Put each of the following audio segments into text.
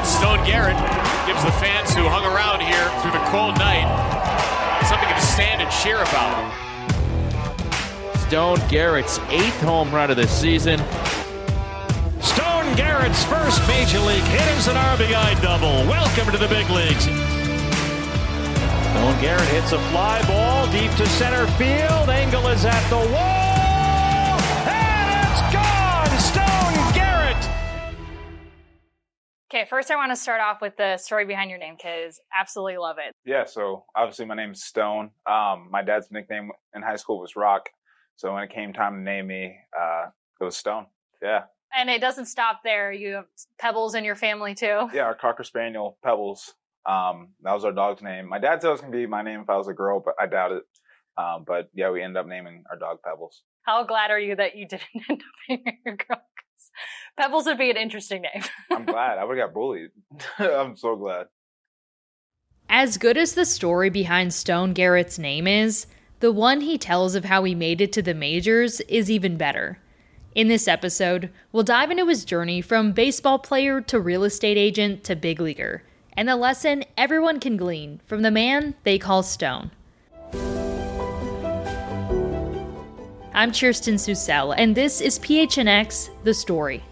Stone Garrett gives the fans who hung around here through the cold night something to stand and cheer about. Stone Garrett's 8th home run of the season. Stone Garrett's first major league hit is an RBI double. Welcome to the big leagues. Stone Garrett hits a fly ball deep to center field. Engel is at the wall, and it's gone! Stone Garrett! Okay, first I want to start off with the story behind your name, because absolutely love it. Yeah, so obviously my name's Stone. My dad's nickname in high school was Rock. So when it came time to name me, it was Stone. Yeah. And it doesn't stop there. You have Pebbles in your family too. Yeah, our Cocker Spaniel, Pebbles. That was our dog's name. My dad said it was going to be my name if I was a girl, but I doubt it. But yeah, we ended up naming our dog Pebbles. How glad are you that you didn't end up naming your girl? 'Cause Pebbles would be an interesting name. I'm glad. I would have got bullied. I'm so glad. As good as the story behind Stone Garrett's name is, the one he tells of how he made it to the majors is even better. In this episode, we'll dive into his journey from baseball player to real estate agent to big leaguer, and the lesson everyone can glean from the man they call Stone. I'm Kirsten Susel, and this is PHNX The Story.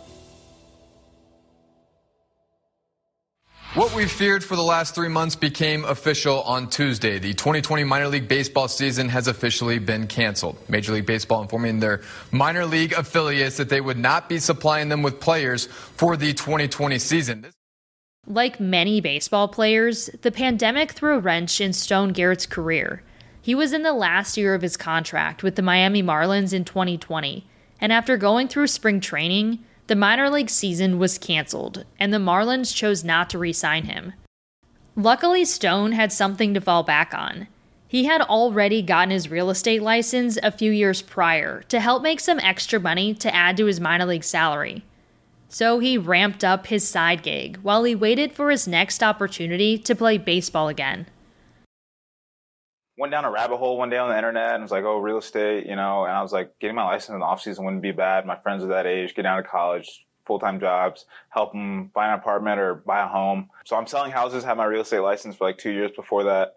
What we feared for the last 3 months became official on Tuesday. The 2020 minor league baseball season has officially been canceled. Major League Baseball informing their minor league affiliates that they would not be supplying them with players for the 2020 season. Like many baseball players, the pandemic threw a wrench in Stone Garrett's career. He was in the last year of his contract with the Miami Marlins in 2020, and after going through spring training, the minor league season was canceled, and the Marlins chose not to re-sign him. Luckily, Stone had something to fall back on. He had already gotten his real estate license a few years prior to help make some extra money to add to his minor league salary. So he ramped up his side gig while he waited for his next opportunity to play baseball again. Went down a rabbit hole one day on the internet and was like, oh, real estate, and I was like, getting my license in the off season wouldn't be bad. My friends are that age, get down to college, full-time jobs, help them buy an apartment or buy a home. So I'm selling houses, had my real estate license for like 2 years before that.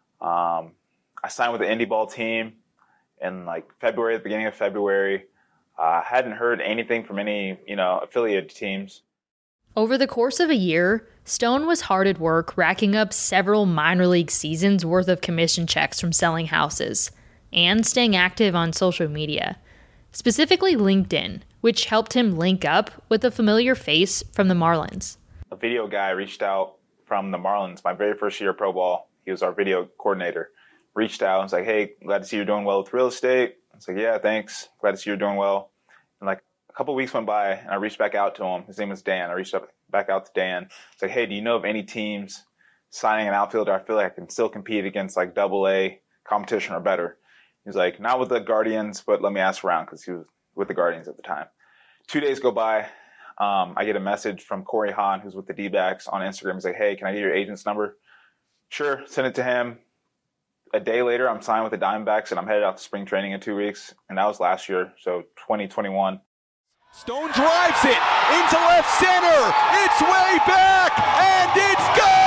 I signed with the indie ball team in like February, the beginning of February. Hadn't heard anything from any, affiliate teams. Over the course of a year, Stone was hard at work racking up several minor league seasons worth of commission checks from selling houses, and staying active on social media, specifically LinkedIn, which helped him link up with a familiar face from the Marlins. A video guy reached out from the Marlins, my very first year of pro ball. He was our video coordinator. Reached out and was like, hey, glad to see you're doing well with real estate. I was like, yeah, thanks. Glad to see you're doing well. And like a couple of weeks went by and I reached back out to him. His name was Dan. I reached back out to Dan. It's like, hey, do you know of any teams signing an outfielder I feel like I can still compete against like AA competition or better? He's like, not with the Guardians, but let me ask around, because he was with the Guardians at the time. 2 days go by. I get a message from Corey Hahn, who's with the D-backs, on Instagram. He's like, hey, can I get your agent's number? Sure, send it to him. A day later, I'm signed with the Diamondbacks, and I'm headed out to spring training in 2 weeks. And that was last year, so 2021. Stone drives it into left center. It's way back, and it's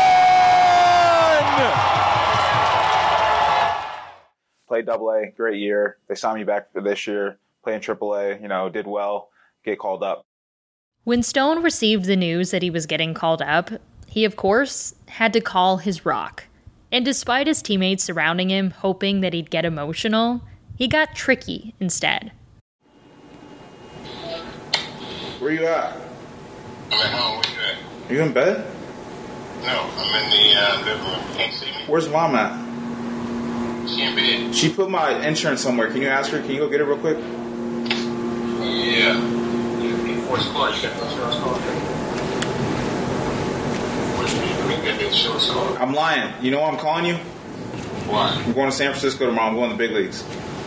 gone! Played AA, great year. They signed me back for this year. Playing AAA, did well, get called up. When Stone received the news that he was getting called up, he, of course, had to call his rock. And despite his teammates surrounding him hoping that he'd get emotional, he got tricky instead. Where you at? I'm at home. Where you at? Are you in bed? No, I'm in the living room. Can't see me. Where's Mom at? She in bed. She put my insurance somewhere. Can you ask her? Can you go get it real quick? Yeah. Where's the car? You got the insurance card? I'm lying. You know why I'm calling you? Why? I'm going to San Francisco tomorrow. I'm going to the big leagues.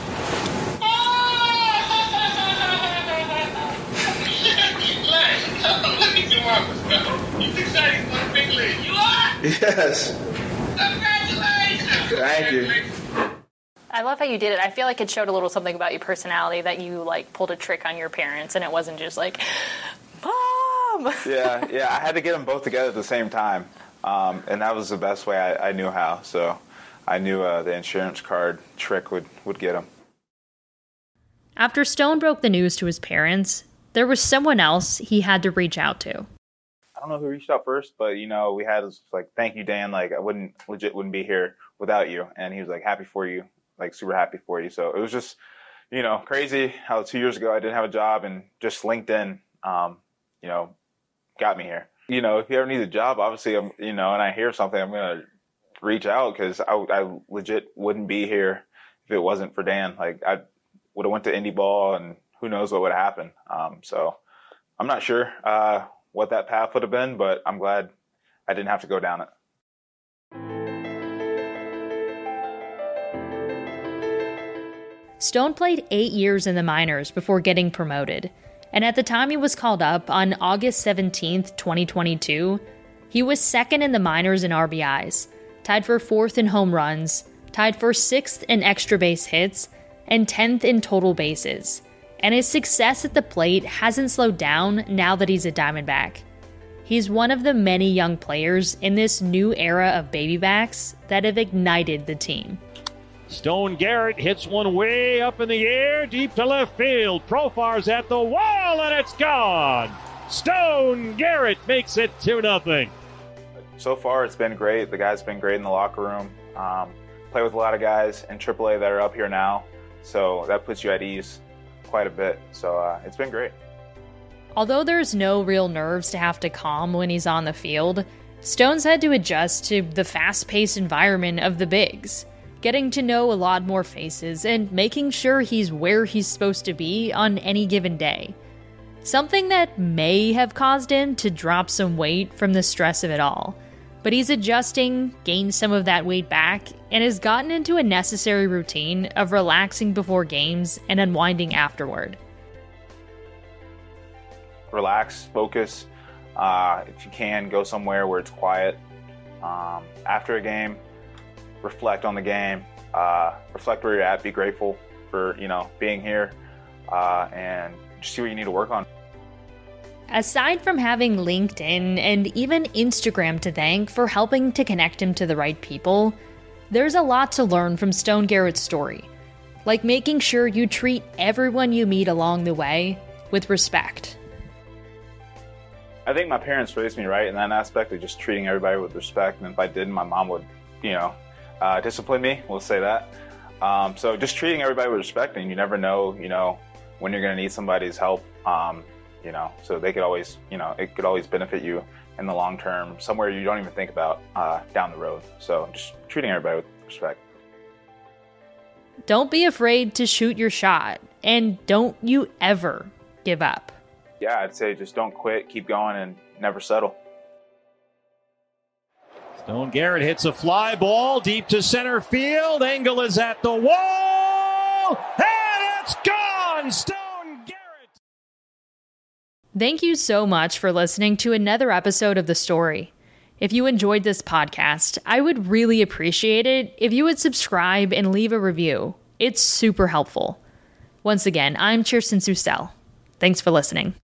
You excited for the big league? You are? Yes. Congratulations. Thank you. I love how you did it. I feel like it showed a little something about your personality, that you like pulled a trick on your parents and it wasn't just like, Mom! Mom. Yeah. I had to get them both together at the same time. And that was the best way I knew how. So I knew the insurance card trick would get him. After Stone broke the news to his parents, there was someone else he had to reach out to. I don't know who reached out first, but, we had like, thank you, Dan. Like, I wouldn't be here without you. And he was like, happy for you, like super happy for you. So it was just, crazy how 2 years ago I didn't have a job and just LinkedIn, got me here. If you ever need a job, obviously, and I hear something, I'm going to reach out because I legit wouldn't be here if it wasn't for Dan. Like, I would have went to indie ball and who knows what would have happened. So I'm not sure what that path would have been, but I'm glad I didn't have to go down it. Stone played 8 years in the minors before getting promoted. And at the time he was called up on August 17th, 2022, he was second in the minors in RBIs, tied for 4th in home runs, tied for 6th in extra base hits, and 10th in total bases. And his success at the plate hasn't slowed down now that he's a Diamondback. He's one of the many young players in this new era of baby-backs that have ignited the team. Stone Garrett hits one way up in the air, deep to left field. Profar's at the wall, and it's gone. Stone Garrett makes it 2-0. So far, it's been great. The guys have been great in the locker room. Play with a lot of guys in AAA that are up here now, so that puts you at ease quite a bit. So it's been great. Although there's no real nerves to have to calm when he's on the field, Stone's had to adjust to the fast-paced environment of the bigs, getting to know a lot more faces and making sure he's where he's supposed to be on any given day. Something that may have caused him to drop some weight from the stress of it all. But he's adjusting, gained some of that weight back, and has gotten into a necessary routine of relaxing before games and unwinding afterward. Relax, focus. If you can, go somewhere where it's quiet. After a game, reflect on the game, reflect where you're at, be grateful for, being here, and just see what you need to work on. Aside from having LinkedIn and even Instagram to thank for helping to connect him to the right people, there's a lot to learn from Stone Garrett's story, like making sure you treat everyone you meet along the way with respect. I think my parents raised me right in that aspect of just treating everybody with respect, and if I didn't, my mom would, discipline me, we'll say that. So just treating everybody with respect, and you never know, when you're going to need somebody's help, so they could always, it could always benefit you in the long term, somewhere you don't even think about down the road. So just treating everybody with respect. Don't be afraid to shoot your shot, and don't you ever give up. Yeah, I'd say just don't quit, keep going, and never settle. Stone Garrett hits a fly ball deep to center field. Engel is at the wall, and it's gone! Stone Garrett! Thank you so much for listening to another episode of The Story. If you enjoyed this podcast, I would really appreciate it if you would subscribe and leave a review. It's super helpful. Once again, I'm Kirsten Susel. Thanks for listening.